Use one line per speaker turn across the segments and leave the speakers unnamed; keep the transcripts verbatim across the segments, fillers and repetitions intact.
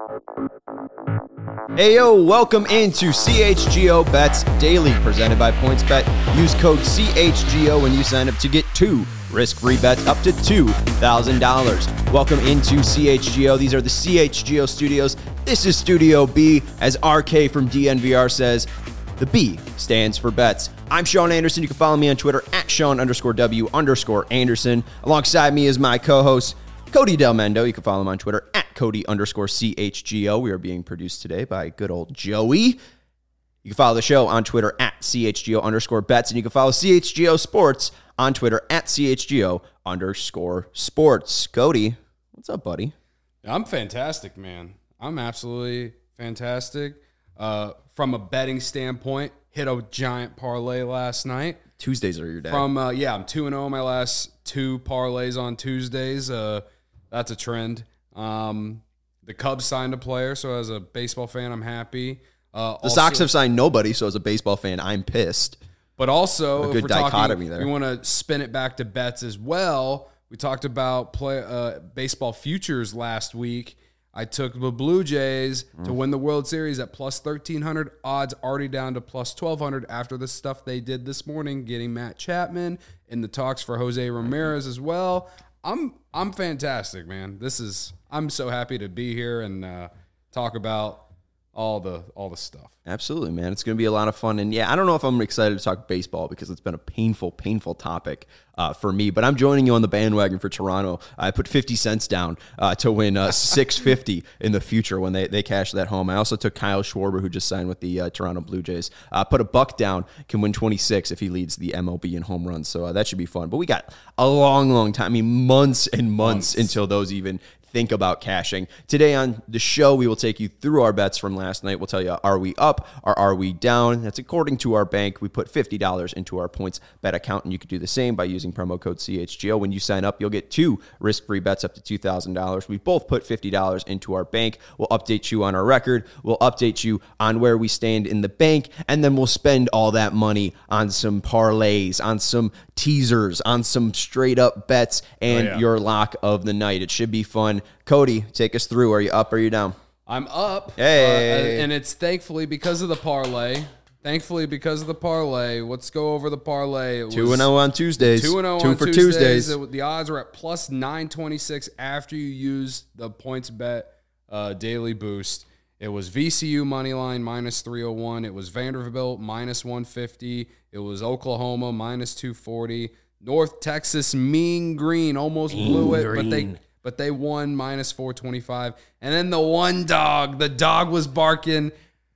Hey yo, welcome into C H G O Bets Daily, presented by PointsBet. Use code C H G O when you sign up to get two risk-free bets up to two thousand dollars. Welcome into C H G O. These are the C H G O studios. This is Studio B. As R K from D N V R says, the B stands for bets. I'm Sean Anderson. You can follow me on Twitter at Sean underscore W underscore Anderson. Alongside me is my co-host, Cody Del Mendo. You can follow him on Twitter at Cody underscore C H G O. We are being produced today by good old Joey. You can follow the show on Twitter at C H G O underscore bets. And you can follow C H G O Sports on Twitter at C H G O underscore sports. Cody, what's up, buddy?
I'm fantastic, man. I'm absolutely fantastic. Uh, from a betting standpoint, hit a giant parlay last night.
Tuesdays are your day.
From uh, yeah, I'm two and oh my last two parlays on Tuesdays. Uh, that's a trend. Um, the Cubs signed a player, so as a baseball fan, I'm happy. Uh,
the also, Sox have signed nobody, so as a baseball fan, I'm pissed.
But also,
a good
if we're
dichotomy
talking,
there.
we want to spin it back to bets as well. We talked about play uh, baseball futures last week. I took the Blue Jays mm. to win the World Series at plus thirteen hundred. Odds already down to plus twelve hundred after the stuff they did this morning, getting Matt Chapman in the talks for Jose Ramirez as well. I'm I'm fantastic, man. This is I'm so happy to be here and uh, talk about all the all the stuff.
Absolutely, man. It's going to be a lot of fun. And yeah, I don't know if I'm excited to talk baseball because it's been a painful, painful topic uh, for me. But I'm joining you on the bandwagon for Toronto. I put fifty cents down uh, to win uh, six fifty in the future when they, they cash that home. I also took Kyle Schwarber, who just signed with the uh, Toronto Blue Jays. Uh, put a buck down, can win twenty-six if he leads the M L B in home runs. So uh, that should be fun. But we got a long, long time. I mean, months and months, months. until those even think about cashing. Today on the show, we will take you through our bets from last night. We'll tell you, are we up or are we down? That's according to our bank. We put fifty dollars into our points bet account, and you could do the same by using promo code C H G O. When you sign up, you'll get two risk-free bets up to two thousand dollars. We both put fifty dollars into our bank. We'll update you on our record. We'll update you on where we stand in the bank, and then we'll spend all that money on some parlays, on some teasers, on some straight-up bets, and oh, yeah. your lock of the night. It should be fun. Cody, take us through. Are you up or are you down?
I'm up.
Hey.
Uh, and it's thankfully because of the parlay. Thankfully because of the parlay. Let's go over the parlay. It
two and oh on Tuesdays.
two and oh
Two
on
for
Tuesdays.
Tuesdays.
It, the odds are at plus nine twenty-six after you use the points bet uh, daily boost. It was V C U money line minus three oh one. It was Vanderbilt minus one fifty. It was Oklahoma minus two forty. North Texas Mean Green almost mean blew it, green. but they but they won minus four twenty-five. And then the one dog, the dog was barking.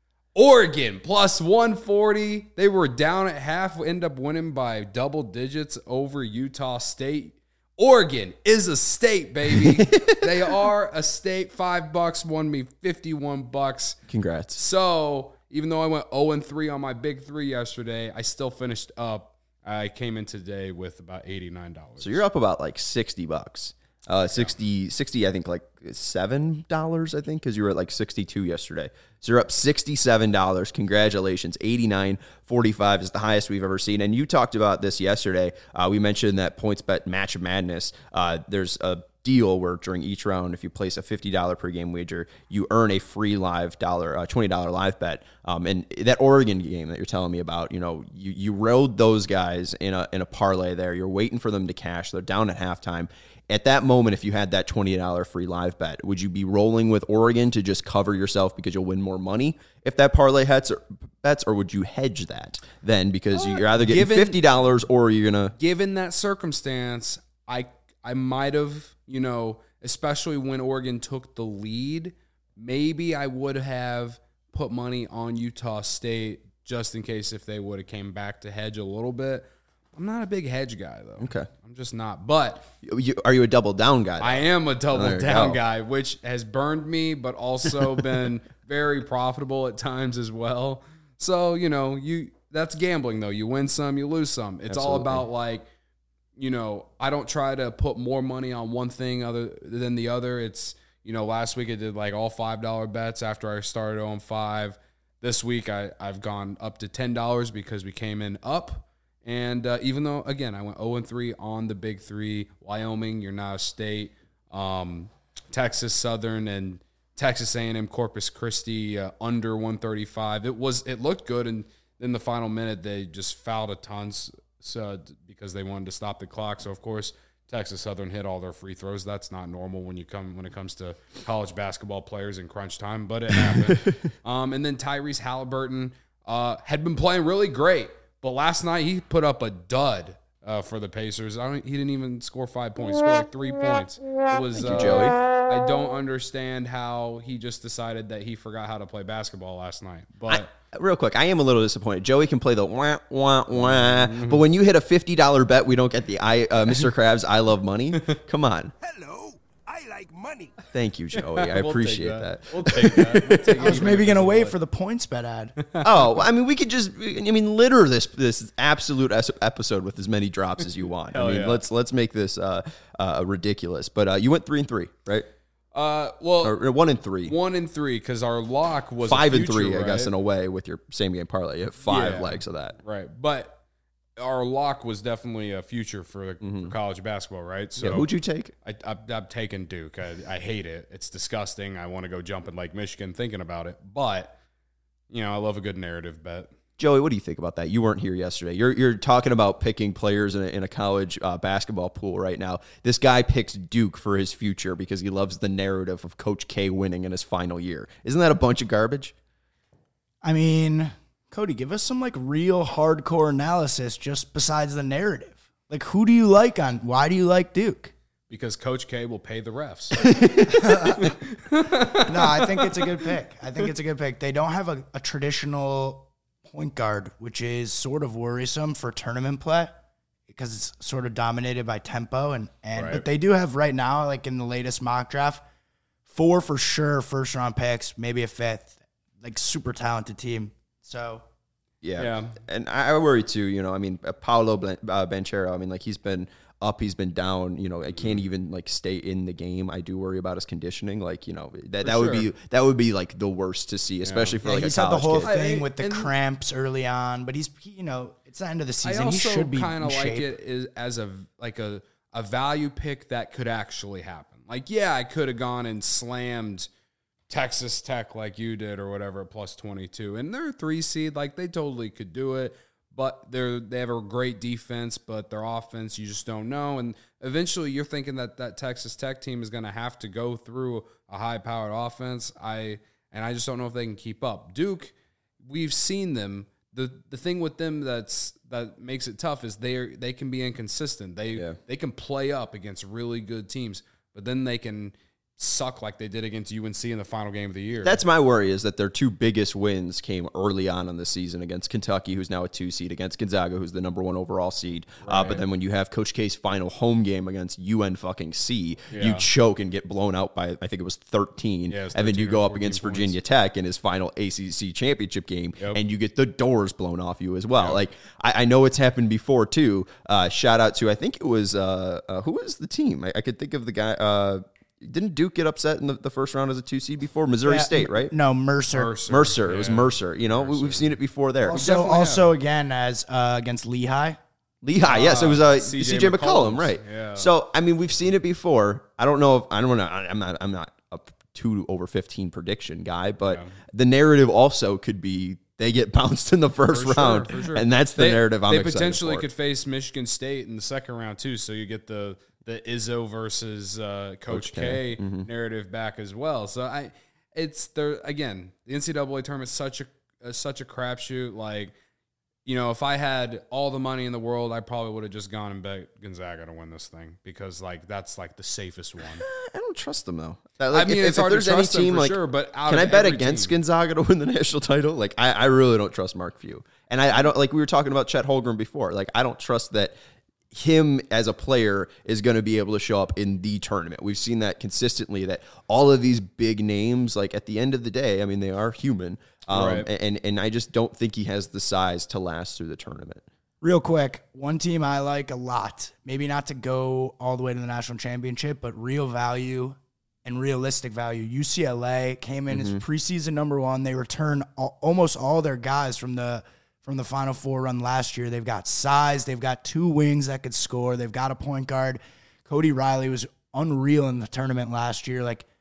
Oregon plus one forty. They were down at half, end up winning by double digits over Utah State. Oregon is a state, baby. They are a state. Five bucks won me fifty-one bucks.
Congrats.
So even though I went oh and three on my big three yesterday, I still finished up. I came in today with about eighty-nine dollars.
So you're up about like sixty bucks. Uh, sixty, sixty, I think like seven dollars, I think, because you were at like sixty-two yesterday. So you're up sixty-seven dollars. Congratulations. eighty-nine forty-five is the highest we've ever seen. And you talked about this yesterday. Uh, we mentioned that PointsBet Match of Madness. Uh, there's a deal where during each round, if you place a fifty dollars per game wager, you earn a free live dollar, uh, twenty dollars live bet. Um, and that Oregon game that you're telling me about, you know, you, you rode those guys in a in a parlay there. You're waiting for them to cash. They're down at halftime. At that moment, if you had that twenty dollars free live bet, would you be rolling with Oregon to just cover yourself because you'll win more money if that parlay hits or bets, or would you hedge that then because uh, you're either getting given, fifty dollars or you're going to...
Given that circumstance, I I might have, you know, especially when Oregon took the lead, maybe I would have put money on Utah State just in case if they would have came back to hedge a little bit. I'm not a big hedge guy, though.
Okay.
I'm just not. But
you, are you a double down guy, though?
I am a double
oh,
down
go.
guy, which has burned me, but also been very profitable at times as well. So, you know, you that's gambling, though. You win some, you lose some. It's Absolutely. all about, like, you know, I don't try to put more money on one thing other than the other. It's, you know, last week I did, like, all five dollar bets after I started on five. This week I, I've gone up to ten dollars because we came in up. And uh, even though, again, I went oh and three on the big three, Wyoming, you're now a state, um, Texas, Southern, and Texas A and M Corpus Christi uh, under one thirty-five. It was it looked good, and in the final minute they just fouled a ton so, because they wanted to stop the clock. So of course Texas Southern hit all their free throws. That's not normal when you come when it comes to college basketball players in crunch time, but it happened. um, and then Tyrese Halliburton uh, had been playing really great, but last night he put up a dud uh, for the Pacers. I don't, he didn't even score five points. He scored like three points. It was,
Thank you,
uh,
Joey.
I don't understand how he just decided that he forgot how to play basketball last night. But
I, real quick, I am a little disappointed. Joey can play the wah, wah, wah. Mm-hmm. But when you hit a fifty dollars bet, we don't get the I, uh, Mister Krabs, I love money. Come on.
Hello, I like money.
Thank you, Joey. I
We'll
appreciate
take
that.
that. We'll take that. We'll take
I was maybe going to wait for the points bet ad.
Oh, I mean, we could just, I mean, litter this this absolute episode with as many drops as you want. I mean,
yeah.
let's let's make this uh, uh, ridiculous. But uh, you went three and three, right?
Uh, well,
Or, or one and three.
one and three because our lock was a
Five and
future,
three, I guess,
right?
in a way, with your same game parlay. You have five
Yeah.
legs of that.
Right, but our lock was definitely a future for, for college basketball, right? So
Yeah, who'd you take?
I, I, I'm taking Duke. I, I hate it. It's disgusting. I want to go jump in Lake Michigan thinking about it. But, you know, I love a good narrative bet.
Joey, what do you think about that? You weren't here yesterday. You're you're talking about picking players in a, in a college uh, basketball pool right now. This guy picks Duke for his future because he loves the narrative of Coach K winning in his final year. Isn't that a bunch of garbage?
I mean, Cody, give us some like real hardcore analysis just besides the narrative. Like, who do you like on? Why do you like Duke?
Because Coach K will pay the refs.
No, I think it's a good pick. I think it's a good pick. They don't have a, a traditional point guard, which is sort of worrisome for tournament play because it's sort of dominated by tempo. And, and
Right.
But they do have right now, like in the latest mock draft, four for sure first round picks, maybe a fifth, like super talented team. So
Yeah.
Yeah.
And I I worry too, you know, I mean, uh, Paolo Blan- uh, Banchero, I mean, like he's been up, he's been down, you know, I can't even like stay in the game. I do worry about his conditioning. Like, you know, that, that would
sure.
be, that would be like the worst to see, especially for
yeah,
like
he's
a
had the
college
whole
kid.
thing
I-
with the
and-
cramps early on, but he's, he, you know, it's the end of the
I
season. He
also
should be
kind of
in
like
shape.
it is, as a like a, a value pick that could actually happen. Like, yeah, I could have gone and slammed Texas Tech like you did or whatever at plus twenty-two. And they're a three seed. Like, they totally could do it. But they're they have a great defense, but their offense, you just don't know. And eventually you're thinking that that Texas Tech team is going to have to go through a high-powered offense. I And I just don't know if they can keep up. Duke, we've seen them. The the thing with them that's that makes it tough is they they can be inconsistent. They
Yeah.
they can play up against really good teams, but then they can suck like they did against U N C in the final game of the year.
That's my worry, is that their two biggest wins came early on in the season against Kentucky, who's now a two seed, against Gonzaga, who's the number one overall seed. Uh, but then when you have Coach K's final home game against U N fucking C, you
Yeah.
choke and get blown out by, I think it was thirteen.
Yeah, it was
and then you
thirteen
go
or
up against
fourteen
Virginia Tech in his final A C C championship game,
Yep.
and you get the doors blown off you as well. Like, I, I know it's happened before too. Uh, shout out to, I think it was, uh, uh, who was the team? I, I could think of the guy. Uh, Didn't Duke get upset in the, the first round as a two seed before? Missouri
Yeah,
State, right?
No, Mercer.
Mercer.
Mercer. It was
Yeah.
Mercer. You know, we, we've seen it before there.
Also,
definitely
also again as uh, against Lehigh.
Lehigh, yes, it was uh,
C J
C J McCollum,
McCollum's,
right?
yeah.
So, I mean, we've seen it before. I don't know if I don't know. I'm not. I'm not a two over fifteen prediction guy, but the narrative also could be they get bounced in the first
For sure,
round,
for sure.
and that's the
They-
narrative I'm
They
excited
potentially
for.
could face Michigan State in the second round too, so you get the the Izzo versus uh, Coach,
Coach K.
K, narrative back as well. So I, it's there again. The N C double A tournament is such a uh, such a crapshoot. Like, you know, if I had all the money in the world, I probably would have just gone and bet Gonzaga to win this thing because like that's like the safest one.
I don't trust them though. Like,
I mean,
if,
it's
if
hard to
there's
trust
any
them
team,
for
like,
sure, but out
can
of
I bet
every
against
team-
Gonzaga to win the national title? Like, I, I really don't trust Mark Few, and I, I don't like we were talking about Chet Holmgren before. Like, I don't trust that him as a player is going to be able to show up in the tournament. We've seen that consistently, that all of these big names, like at the end of the day, I mean, they are human. Um,
Right.
and, and I just don't think he has the size to last through the tournament.
Real quick, one team I like a lot, maybe not to go all the way to the national championship, but real value and realistic value. U C L A came in
Mm-hmm.
as preseason number one. They returned all, almost all their guys from the from the Final Four run last year. They've got size. They've got two wings that could score. They've got a point guard. Cody Riley was unreal in the tournament last year. Like,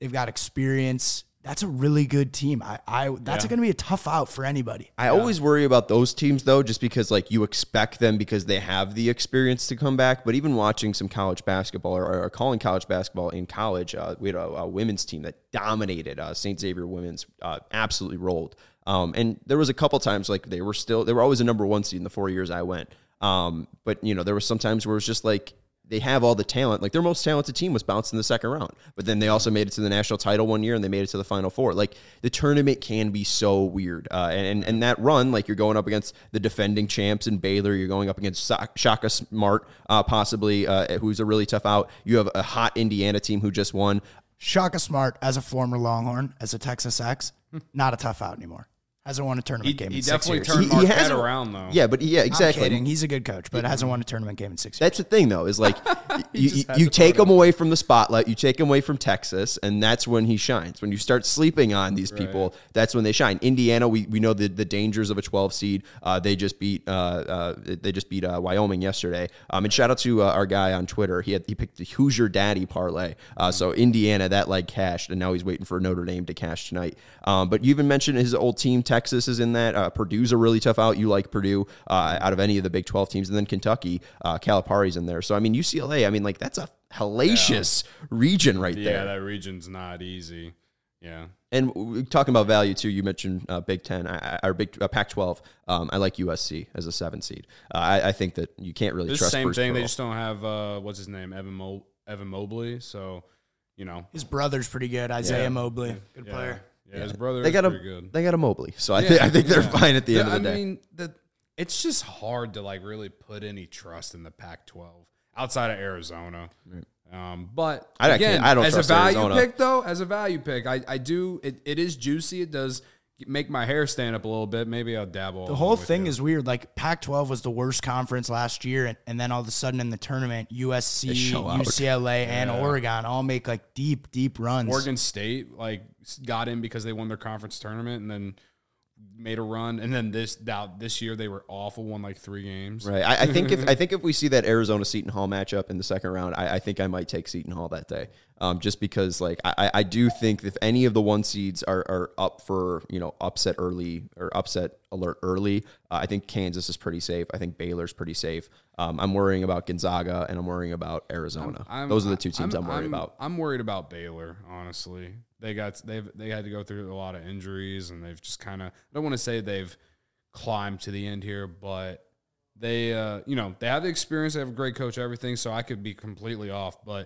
They've got experience. That's a really good team. I, I that's
Yeah.
going to be a tough out for anybody.
I always worry about those teams, though, just because like you expect them because they have the experience to come back. But even watching some college basketball or, or calling college basketball in college, uh, we had a, a women's team that dominated. Uh, Saint Xavier women's uh, absolutely rolled. Um, and there was a couple times like they were still they were always a number one seed in the four years I went. Um, but you know there was some times where it was just like. They have all the talent. Like their most talented team was bounced in the second round, but then they also made it to the national title one year and they made it to the Final Four. Like the tournament can be so weird. Uh, and, and that run, like you're going up against the defending champs in Baylor. You're going up against Shaka Smart, uh, possibly, uh, who's a really tough out. You have a hot Indiana team who just won.
Shaka Smart, as a former Longhorn, as a Texas Ex, not a tough out anymore. Hasn't won a tournament
He,
game
he
in six
definitely
years.
turned
He- he
Marquette
hasn't-
around, though.
Yeah, but yeah, exactly.
I'm kidding. He's a good coach, but hasn't won a tournament game in six years.
That's the thing, though, is like you,
just had
you
to
take
put
him away from the spotlight, you take him away from Texas, and that's when he shines. When you start sleeping on these people, that's when they shine. Indiana, we, we know the, the dangers of a twelve seed. Uh, they just beat uh, uh, they just beat uh, Wyoming yesterday. Um, and shout out to uh, our guy on Twitter. He had he picked the Hoosier Daddy parlay. Uh, so Indiana, that leg cashed, and now he's waiting for Notre Dame to cash tonight. Um, but you even mentioned his old team, Texas, is in that. Uh, Purdue's a really tough out. You like Purdue uh, out of any of the Big twelve teams, and then Kentucky, uh, Calipari's in there. So I mean, U C L A. I mean, like that's a hellacious region right
Yeah,
there.
that region's not easy. Yeah.
And we're talking about value too. You mentioned uh, Big Ten I, I, or Big uh, Pac twelve. Um, I like U S C as a seven seed. Uh, I, I think that you can't really
It's the
trust.
same
Bruce
thing. They
Pearl.
just don't have, uh, what's his name, Evan, Mo- Evan Mobley. So, you know.
His brother's pretty good. Isaiah
Yeah.
Mobley, good
Yeah.
player.
Yeah, his brother
They
is
got a
pretty good.
they got a Mobley, so I
Yeah,
think I think they're
yeah.
fine at the end
Yeah,
of the
I
day.
mean, the, it's just hard to like really put any trust in the Pac twelve outside of Arizona. Um, but
I
again,
can't- I don't
as
trust
a value
Arizona.
pick, though, as a value pick, I, I do. It, it is juicy. It does make my hair stand up a little bit. Maybe I'll dabble.
The whole thing is weird. Like Pac twelve was the worst conference last year, and, and then all of a sudden in the tournament, U S C,
show out.
U C L A, and Oregon all make like deep, deep runs.
Oregon State like got in because they won their conference tournament and then made a run, and then this now this year they were awful, won like three games.
Right. I, I think if I think if we see that Arizona Seton Hall matchup in the second round, I, I think I might take Seton Hall that day. Um, just because like I, I do think if any of the one seeds are, are up for, you know, upset early or upset alert early, uh, I think Kansas is pretty safe. I think Baylor's pretty safe. Um, I'm worrying about Gonzaga and I'm worrying about Arizona.
I'm-
Those are the two teams I'm,
I'm
worried
I'm-
about.
I'm worried about Baylor, honestly. They got they've they had to go through a lot of injuries, and they've just kind of, I don't want to say they've climbed to the end here, but they uh, you know, they have the experience, they have a great coach, everything, so I could be completely off, but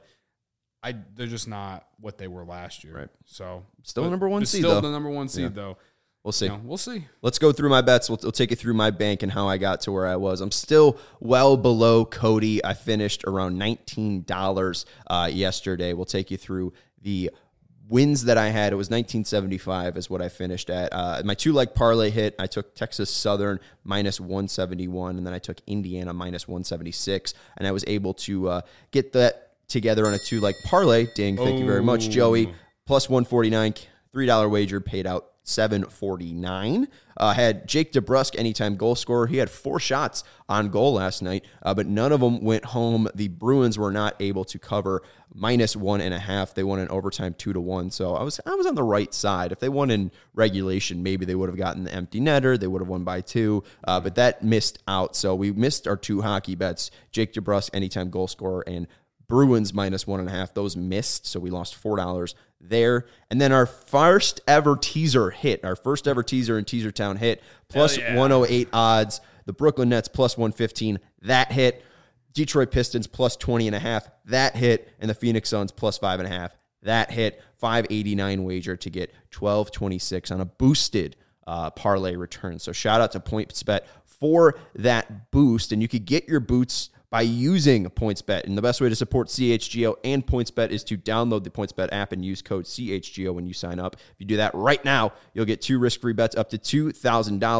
I they're just not what they were last year.
Right.
So
Still
but-
number one
but
seed,
Still
though.
the number one seed
Yeah.
though.
We'll see.
You know, we'll see.
Let's go through my bets. We'll, we'll take you through my bank and how I got to where I was. I'm still well below Cody. I finished around nineteen dollars uh, yesterday. We'll take you through the wins that I had. It was nineteen seventy-five is what I finished at. Uh, my two-leg parlay hit. I took Texas Southern minus one seventy-one, and then I took Indiana minus one seventy-six, and I was able to uh, get that together on a two-leg parlay. Ding, thank you very much, Joey. Plus one forty-nine, three dollar wager paid out seven forty-nine. Uh, had Jake DeBrusk, anytime goal scorer. He had four shots on goal last night, uh, but none of them went home. The Bruins were not able to cover minus one and a half. They won in overtime two to one. So I was I was on the right side. If they won in regulation, maybe they would have gotten the empty netter. They would have won by two, uh, but that missed out. So we missed our two hockey bets: Jake DeBrusk, anytime goal scorer, and Bruins minus one and a half. Those missed, so we lost four dollars there. And then our first ever teaser hit, our first ever teaser in Teaser Town hit, plus
yeah.
one oh eight odds. The Brooklyn Nets plus one fifteen, that hit. Detroit Pistons plus twenty and a half, that hit. And the Phoenix Suns plus five and a half, that hit. five eighty-nine wager to get twelve twenty-six on a boosted uh, parlay return. So shout out to PointsBet for that boost. And you could get your boots by using PointsBet. And the best way to support C H G O and PointsBet is to download the PointsBet app and use code C H G O when you sign up. If you do that right now, you'll get two risk-free bets up to two thousand dollars.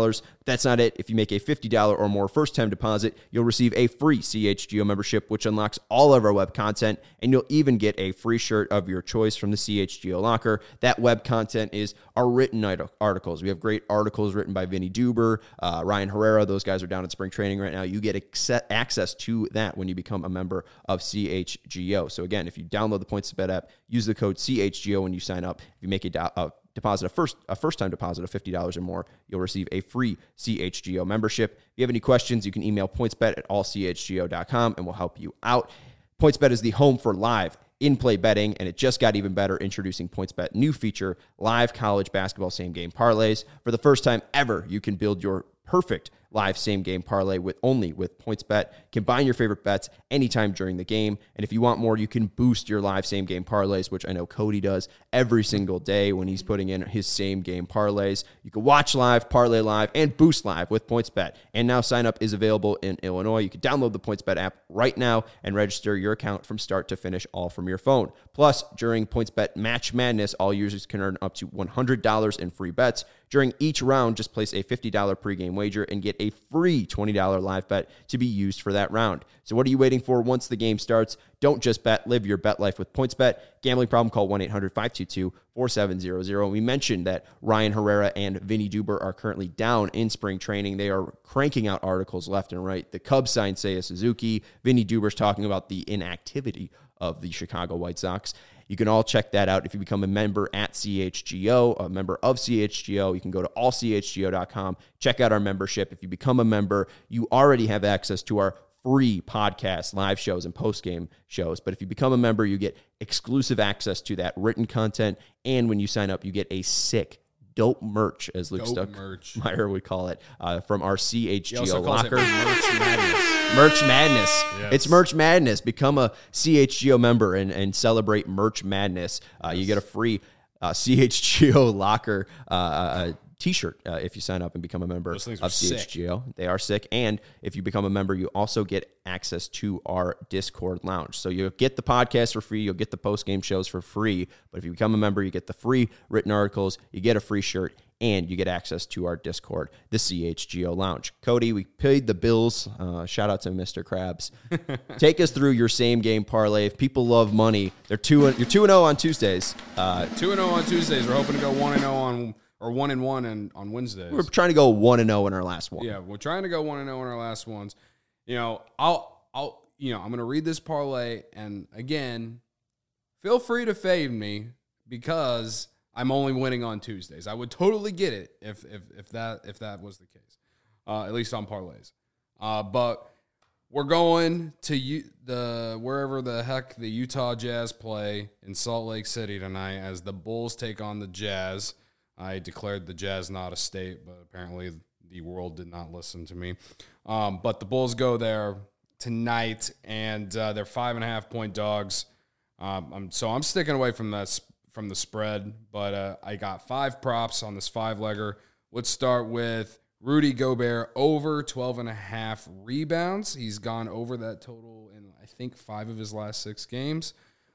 That's not it. If you make a fifty dollars or more first-time deposit, you'll receive a free C H G O membership, which unlocks all of our web content, and you'll even get a free shirt of your choice from the C H G O locker. That web content is our written articles. We have great articles written by Vinny Duber, uh, Ryan Herrera. Those guys are down at spring training right now. You get access to that when you become a member of C H G O. So again, if you download the PointsBet app, use the code C H G O when you sign up. If you make a, do- a deposit, a first a first-time deposit of fifty dollars or more, you'll receive a free C H G O membership. If you have any questions, you can email pointsbet at all c h g o dot com and we'll help you out. PointsBet is the home for live in-play betting, and it just got even better introducing PointsBet new feature, live college basketball same-game parlays. For the first time ever, you can build your perfect live same-game parlay with only with PointsBet. Combine your favorite bets anytime during the game, and if you want more, you can boost your live same-game parlays, which I know Cody does every single day when he's putting in his same-game parlays. You can watch live, parlay live, and boost live with PointsBet. And now sign-up is available in Illinois. You can download the PointsBet app right now and register your account from start to finish, all from your phone. Plus, during PointsBet Match Madness, all users can earn up to one hundred dollars in free bets. During each round, just place a fifty dollars pregame wager and get a free twenty dollars live bet to be used for that round. So what are you waiting for once the game starts? Don't just bet, live your bet life with PointsBet. Gambling problem, call one eight hundred five two two four seven zero zero. We mentioned that Ryan Herrera and Vinny Duber are currently down in spring training. They are cranking out articles left and right. The Cubs signed Seiya Suzuki. Vinny Duber's talking about the inactivity of the Chicago White Sox. You can all check that out if you become a member at C H G O, a member of C H G O. You can go to all c h g o dot com, check out our membership. If you become a member, you already have access to our free podcast, live shows, and post-game shows. But if you become a member, you get exclusive access to that written content. And when you sign up, you get a sick, dope merch, as Luke Stuckmeyer would call it, uh, from our C H G O locker.
Merch Madness.
Merch Madness.
Yes.
It's Merch Madness. Become a C H G O member and, and celebrate Merch Madness. Uh, yes. You get a free uh, C H G O locker uh, uh, t-shirt uh, if you sign up and become a member of C H G O. Sick. They are sick. And if you become a member, you also get access to our Discord lounge. So you'll get the podcast for free. You'll get the post-game shows for free. But if you become a member, you get the free written articles, you get a free shirt, and you get access to our Discord, the C H G O Lounge. Cody, we paid the bills. Uh, shout out to Mister Krabs. Take us through your same-game parlay. If people love money, they're two. You're two and zero on Tuesdays.
Uh, two and zero on Tuesdays. We're hoping to go one and zero on or one and one and on Wednesdays.
We're trying to go one and zero in our last one.
Yeah, we're trying to go one and zero in our last ones. You know, I'll I'll you know I'm going to read this parlay, and again, feel free to fade me because I'm only winning on Tuesdays. I would totally get it if if if that if that was the case, uh, at least on parlays. Uh, but we're going to U- the wherever the heck the Utah Jazz play in Salt Lake City tonight as the Bulls take on the Jazz. I declared the Jazz not a state, but apparently the world did not listen to me. Um, but the Bulls go there tonight, and uh, they're five and a half point dogs. Um, I'm, so I'm sticking away from that. From the spread, but uh, I got five props on this five-legger. Let's start with Rudy Gobert over twelve and a half rebounds. He's gone over that total in, I think, five of his last six games.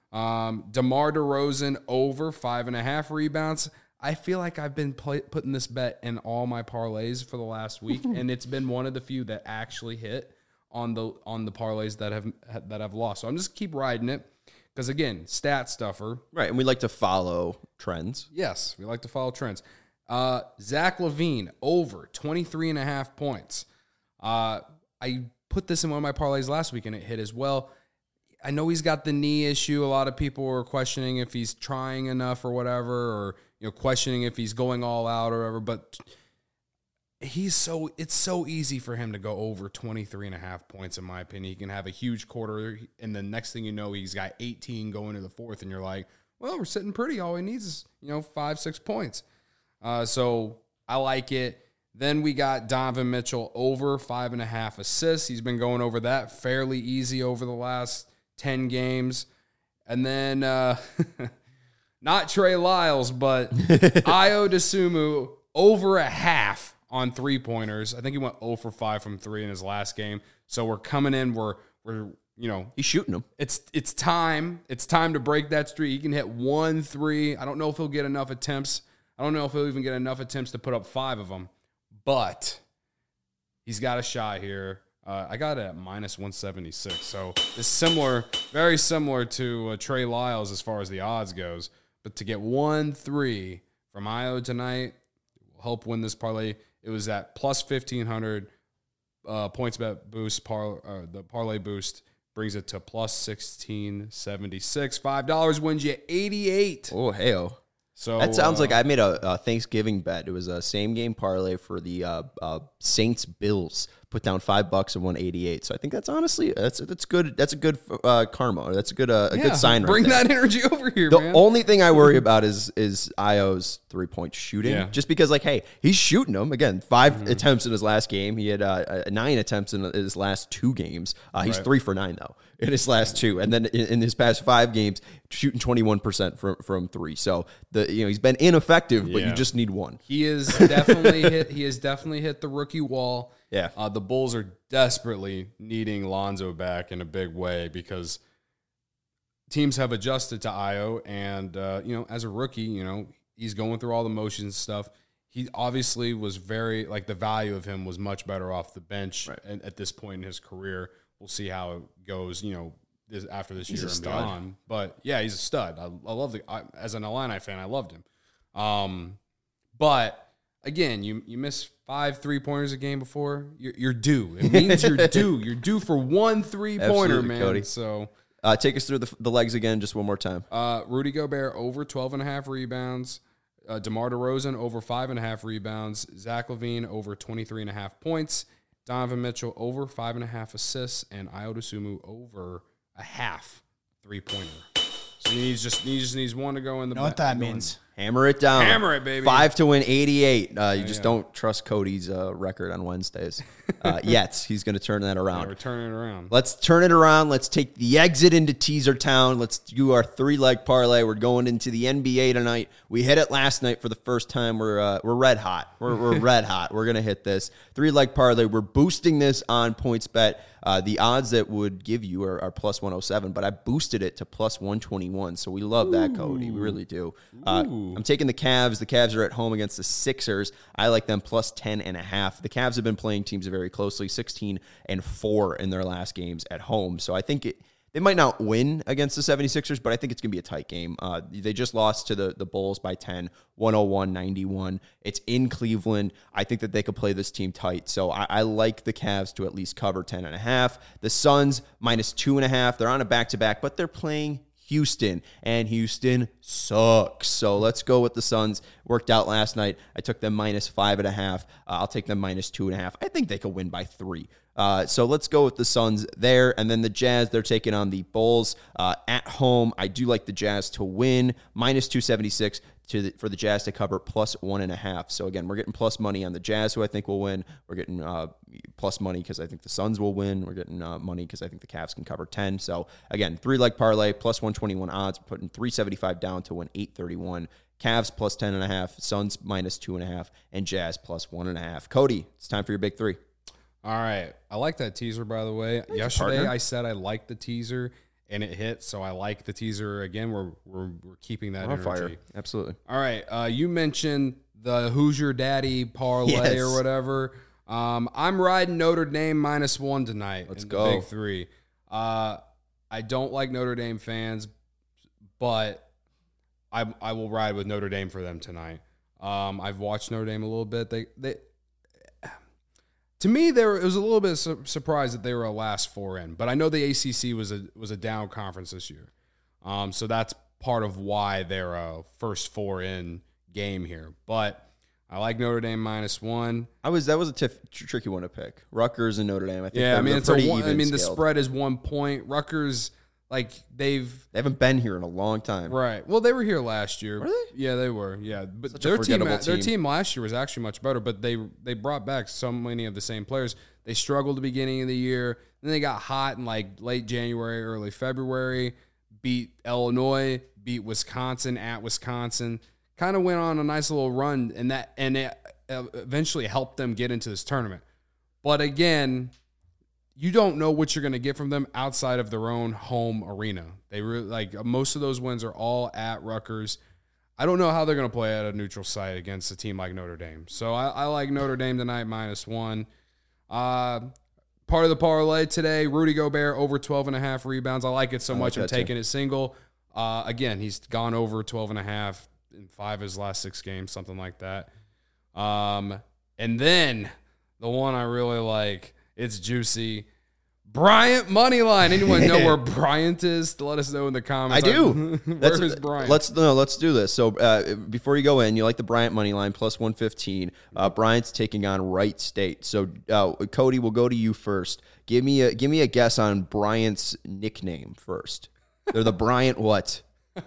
Um, DeMar DeRozan over five and a half rebounds. I feel like I've been play- putting this bet in all my parlays for the last week, and it's been one of the few that actually hit on the on the parlays that have that I've lost. So I'm just keep riding it. Because, again, stat stuffer.
Right, and we like to follow trends.
Yes, we like to follow trends. Uh, Zach LaVine, over twenty-three and a half points. Uh, I put this in one of my parlays last week, and it hit as well. I know he's got the knee issue. A lot of people are questioning if he's trying enough or whatever, or you know, questioning if he's going all out or whatever, but he's so it's so easy for him to go over twenty-three and a half points, in my opinion. He can have a huge quarter, and the next thing you know, he's got eighteen going to the fourth, and you're like, well, we're sitting pretty. All he needs is, you know, five, six points. Uh, so I like it. Then we got Donovan Mitchell over five and a half assists. He's been going over that fairly easy over the last ten games. And then uh, not Trey Lyles, but Ayo Dosunmu over a half on three-pointers. I think he went zero for five from three in his last game. So we're coming in, we're, we're you know.
He's shooting them.
It's it's time. It's time to break that streak. He can hit one three. I don't know if he'll get enough attempts. I don't know if he'll even get enough attempts to put up five of them. But he's got a shot here. Uh, I got it at minus one seventy-six. So it's similar, very similar to uh, Trey Lyles as far as the odds goes. But to get one three from Ayo tonight will help win this parlay. It was at plus fifteen hundred uh, points bet boost. Par, uh, the parlay boost brings it to plus sixteen seventy-six. five dollars wins you eighty-eight.
Oh, hey-oh.
So
That sounds
uh,
like I made a, a Thanksgiving bet. It was a same game parlay for the uh, uh, Saints Bills. Put down five bucks and won eighty-eight. So I think that's honestly that's that's good. That's a good uh, karma. That's a good uh, a
yeah,
good sign.
Bring
right there.
that energy over here,
The
man.
only thing I worry about is is Io's three point shooting.
Yeah.
Just because, like, hey, he's shooting them again. Five
Mm-hmm.
attempts in his last game. He had uh, nine attempts in his last two games. Uh, he's
Right.
three for nine though in his last two, and then in, in his past five games, shooting twenty one percent from from three. So the you know he's been ineffective, but
Yeah.
you just need one.
He is definitely hit. He has definitely hit the rookie wall.
Yeah.
Uh, the Bulls are desperately needing Lonzo back in a big way because teams have adjusted to Ayo, and uh, you know, as a rookie, you know, he's going through all the motions and stuff. He obviously was very like the value of him was much better off the bench
Right.
at, at this point in his career. We'll see how it goes. You know, this, after this
He's
year
a
and
stud.
beyond. But yeah, he's a stud. I, I love the I, as an Illini fan, I loved him. Um, but again, you you miss five three pointers a game before, you're, you're due. It means you're due. You're due for one three pointer,
Absolutely,
man.
Cody.
So
Uh, take us through the, the legs again, just one more time.
uh, Rudy Gobert over twelve and a half rebounds. Uh, DeMar DeRozan over five and a half rebounds. Zach LaVine over twenty-three and a half points. Donovan Mitchell over five and a half assists, and Ayo Dosunmu over a half three pointer. So he needs just he just needs one to go in the.
You know what
ba-
that
go in-
means?
Hammer it down.
Hammer it, baby.
Five to win eighty-eight. Uh, you just
yeah.
don't trust Cody's uh, record on Wednesdays uh, yet. He's going to turn that around.
Yeah, we're turning it around.
Let's turn it around. Let's take the exit into Teaser Town. Let's do our three-leg parlay. We're going into the N B A tonight. We hit it last night for the first time. We're uh, we're red hot. We're, we're red hot. We're going to hit this. Three-leg parlay. We're boosting this on PointsBet. Uh, the odds that would give you are, are plus one oh seven, but I boosted it to plus one twenty-one. So we love that, Cody. We really do. Uh, I'm taking the Cavs. The Cavs are at home against the Sixers. I like them plus ten and a half. The Cavs have been playing teams very closely, sixteen and four in their last games at home. So I think it, they might not win against the seventy-sixers, but I think it's going to be a tight game. Uh, they just lost to the, the Bulls by ten, one oh one ninety-one. It's in Cleveland. I think that they could play this team tight. So I, I like the Cavs to at least cover ten and a half. The Suns minus two and a half. They're on a back-to-back, but they're playing Houston, and Houston sucks. So let's go with the Suns. Worked out last night. I took them minus five and a half. Uh, I'll take them minus two and a half. I think they could win by three. Uh, so let's go with the Suns there. And then the Jazz, they're taking on the Bulls uh, at home. I do like the Jazz to win. Minus two seventy-six to the, for the Jazz to cover plus one and a half. So again, we're getting plus money on the Jazz, who I think will win. We're getting uh, plus money because I think the Suns will win. We're getting uh, money because I think the Cavs can cover ten. So again, three-leg parlay, plus one twenty-one odds, putting three seventy-five down to win eight thirty-one. Cavs plus ten and a half, Suns minus two and a half, and Jazz plus one and a half. Cody, it's time for your big three.
All right. I like that teaser, by the way.
you,
Yesterday,
partner.
I said I liked the teaser, and it hit, so I like the teaser. Again, we're we're, we're keeping that
On
energy.
fire. Absolutely.
All right. Uh, you mentioned the Who's Your Daddy parlay
Yes.
or whatever. Um, I'm riding Notre Dame minus one tonight.
Let's
in
go.
The big three. Uh, I don't like Notre Dame fans, but I I will ride with Notre Dame for them tonight. Um, I've watched Notre Dame a little bit. They they to me there it was a little bit su- surprised that they were a last four in, but I know the A C C was a was a down conference this year, um, so that's part of why they're a first four in game here. But I like Notre Dame minus one.
I was that was a tiff, tr- tricky one to pick. Rutgers and Notre Dame. I think
Yeah, I
they're-
mean
they're
it's a
pretty
one, I
even
mean the
scaled.
spread is one point. Rutgers, like they've
They haven't been here in a long time.
right. Well, they were here last year.
Were they?
Yeah, they were. Yeah, but
Such a
their team,
forgettable
their
team.
team last year was actually much better. But they they brought back so many of the same players. They struggled at the beginning of the year. Then they got hot in like late January, early February. Beat Illinois, beat Wisconsin at Wisconsin. Kind of went on a nice little run, and that and it eventually helped them get into this tournament. But again, you don't know what you're going to get from them outside of their own home arena. They really like most of those wins are all at Rutgers. I don't know how they're going to play at a neutral site against a team like Notre Dame. So I, I like Notre Dame tonight minus one. Uh, part of the parlay today, Rudy Gobert over twelve and a half rebounds. I like it so
I
much.
like
I'm
that
taking it single. Uh, again, he's gone over twelve and a half in five of his last six games, something like that. Um, and then the one I really like, it's juicy. Bryant money line. Anyone know where Bryant is? Let us know in the comments.
I do.
Where is Bryant?
Let's no, let's do this. So uh, before you go in, you like the Bryant money line plus one fifteen. Uh, Bryant's taking on Wright State. So uh, Cody, we'll go to you first. Give me a give me a guess on Bryant's nickname first. They're the Bryant what?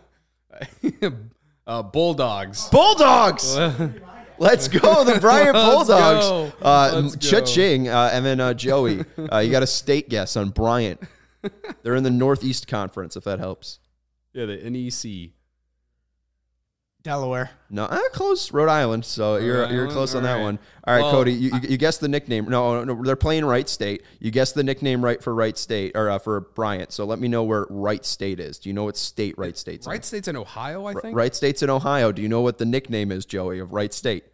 uh, Bulldogs.
Bulldogs. Let's go, the Bryant
Let's
Bulldogs.
go.
Uh,
Let's go.
Cha-ching, uh, and then uh, Joey, uh, you got a state guess on Bryant. They're in the Northeast Conference, if that helps.
Yeah, the N E C.
Delaware.
No, uh, close. Rhode Island. So you're you're
Island?
close on
All
that
right.
one. All right,
Well,
Cody, you, you, you guessed the nickname. No, no, they're playing Wright State. You guessed the nickname right for Wright State or uh, for Bryant. So let me know where Wright State is. Do you know what state Wright State's in?
Wright State's in Ohio, I think.
Wright State's in Ohio. Do you know what the nickname is, Joey, of Wright State?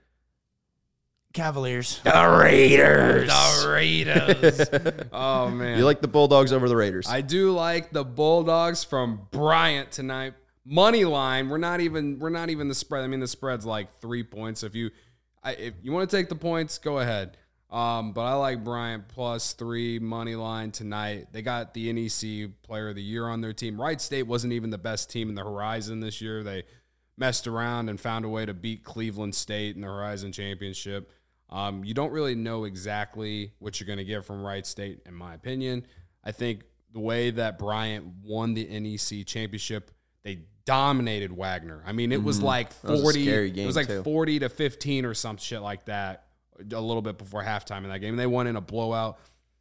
Cavaliers.
The Raiders.
The Raiders. Oh, man.
You like the Bulldogs over the Raiders?
I do like the Bulldogs from Bryant tonight. Money line. We're not even. We're not even the spread. I mean, the spread's like three points. If you, I, if you want to take the points, go ahead. Um, but I like Bryant plus three money line tonight. They got the N E C Player of the Year on their team. Wright State wasn't even the best team in the Horizon this year. They messed around and found a way to beat Cleveland State in the Horizon Championship. Um, you don't really know exactly what you're going to get from Wright State, in my opinion. I think the way that Bryant won the N E C championship, they dominated Wagner. I mean, it was like
That was a
forty.
scary
It
game,
was like
too.
forty to fifteen or some shit like that. A little bit before halftime in that game, they won in a blowout.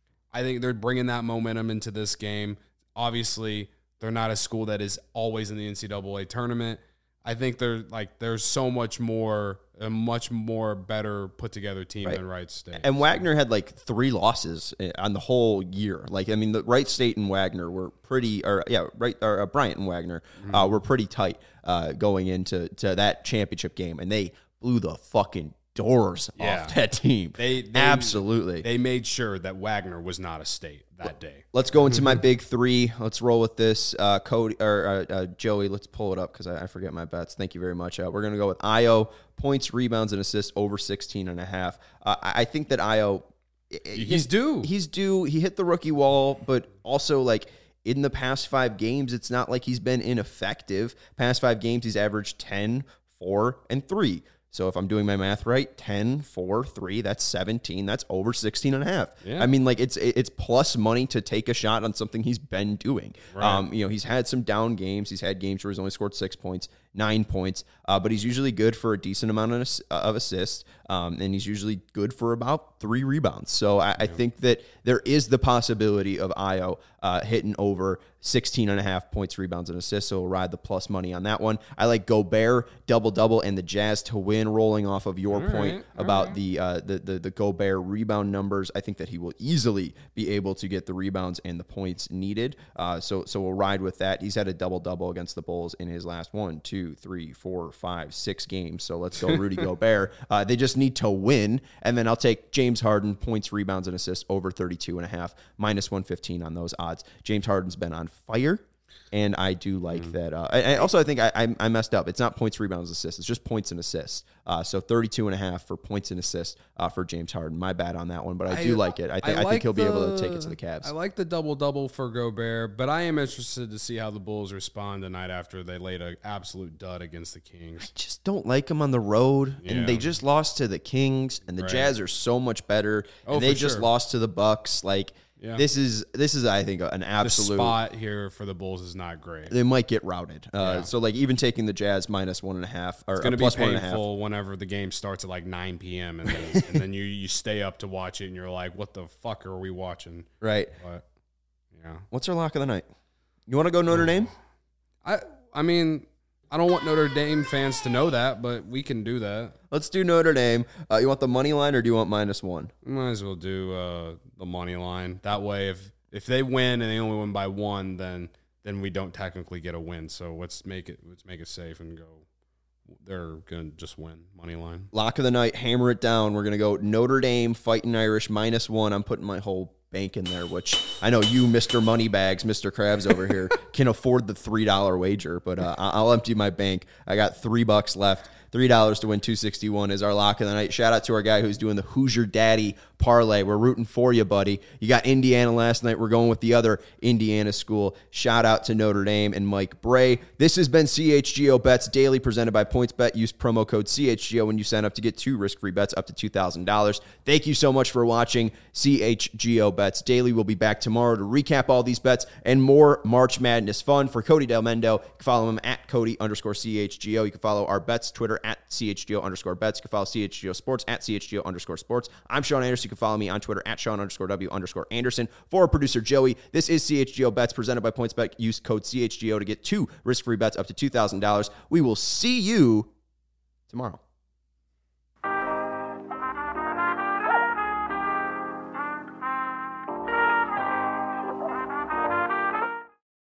I think they're bringing that momentum into this game. Obviously, they're not a school that is always in the N C double A tournament. I think they're like there's so much more, a much more better put together team
Right.
than Wright State.
And Wagner had like three losses on the whole year. Like, I mean, the Wright State and Wagner were pretty, or yeah, right, or uh, Bryant and Wagner
Mm-hmm.
uh, were pretty tight uh, going into to that championship game, and they blew the fucking doors
Yeah.
off that team.
They, they
absolutely.
they made sure that Wagner was not a state that day.
Let's go into my big three. Let's roll with this. Uh, Cody or uh, uh, Joey, let's pull it up because I, I forget my bets. Thank you very much. Uh, we're going to go with Io, points, rebounds, and assists over sixteen and a half. Uh, I I think that Io,
He's due.
He's due. He hit the rookie wall, but also like in the past five games, it's not like he's been ineffective. Past five games, he's averaged ten, four, and three. So if I'm doing my math right, ten, four, three, that's seventeen. That's over sixteen and a half.
Yeah.
I mean, like it's it's plus money to take a shot on something he's been doing.
Right.
Um, you know, he's had some down games. He's had games where he's only scored six points, nine points, uh, but he's usually good for a decent amount of, ass- of assists, um, and he's usually good for about three rebounds. So I, I think that there is the possibility of Io uh, hitting over sixteen and a half points, rebounds, and assists. So we'll ride the plus money on that one. I like Gobert double-double and the Jazz to win, rolling off of your
All
point
right, all
about
right.
the, uh, the the the Gobert rebound numbers. I think that he will easily be able to get the rebounds and the points needed. Uh, so so we'll ride with that. He's had a double-double against the Bulls in his last one, two, three, four, five, six games. So let's go Rudy Gobert. Uh, they just need to win. And then I'll take James Harden, points, rebounds, and assists over thirty-two and a half, minus one fifteen on those odds. James Harden's been on fire. And I do like
Mm.
that. Uh, and also, I think I, I, I messed up. It's not points, rebounds, assists. It's just points and assists. Uh, so thirty-two and a half for points and assists uh, for James Harden. My bad on that one, but I, do like it. I, th- I,
like
think he'll be able to
the-
take it to the Cavs.
I like the double-double for Gobert, but I am interested to see how the Bulls respond tonight after they laid an absolute dud against the Kings.
just don't like him on the road,
Yeah.
and they just lost to the Kings, and the
Right.
Jazz are so much better,
Oh,
and they
for
just
sure.
lost to the Bucks. Like
Yeah.
this is this is I think an
The
absolute.
spot here for the Bulls is not great.
They might get routed. Uh,
Yeah.
So like even taking the Jazz minus one and a half or
It's going to
uh,
be
plus one and a half.
painful whenever the game starts at like nine p.m. and then, and then you, you stay up to watch it and you're like, what the fuck are we watching?
Right.
But, yeah.
What's our lock of the night? You want to go Notre Dame?
I I mean, I don't want Notre Dame fans to know that, but we can do that.
Let's do Notre Dame. Uh, you want the money line or do you want minus one?
We might as well do uh, the money line. That way, if if they win and they only win by one, then then we don't technically get a win. So let's make it let's make it safe and go they're going to just win money line.
Lock of the night, hammer it down. We're going to go Notre Dame, Fighting Irish, minus one. I'm putting my whole bank in there, which I know you, Mister Moneybags, Mister Krabs over here, can afford the three dollar wager, but uh, I'll empty my bank. I got three bucks left. three dollars to win two sixty-one is our lock of the night. Shout out to our guy who's doing the Hoosier Daddy parlay. We're rooting for you, buddy. You got Indiana last night. We're going with the other Indiana school. Shout out to Notre Dame and Mike Bray. This has been C H G O Bets Daily, presented by PointsBet. Use promo code C H G O when you sign up to get two risk-free bets up to two thousand dollars. Thank you so much for watching C H G O Bets Daily. We'll be back tomorrow to recap all these bets and more March Madness fun. For Cody Del Mendo, you can follow him at Cody underscore C H G O. You can follow our bets Twitter at C H G O underscore bets. You can follow C H G O Sports at C H G O underscore sports. I'm Sean Anderson. You can follow me on Twitter at Sean underscore W underscore Anderson. For our producer Joey, this is C H G O Bets presented by PointsBet. Use code C H G O to get two risk-free bets up to two thousand dollars. We will see you tomorrow.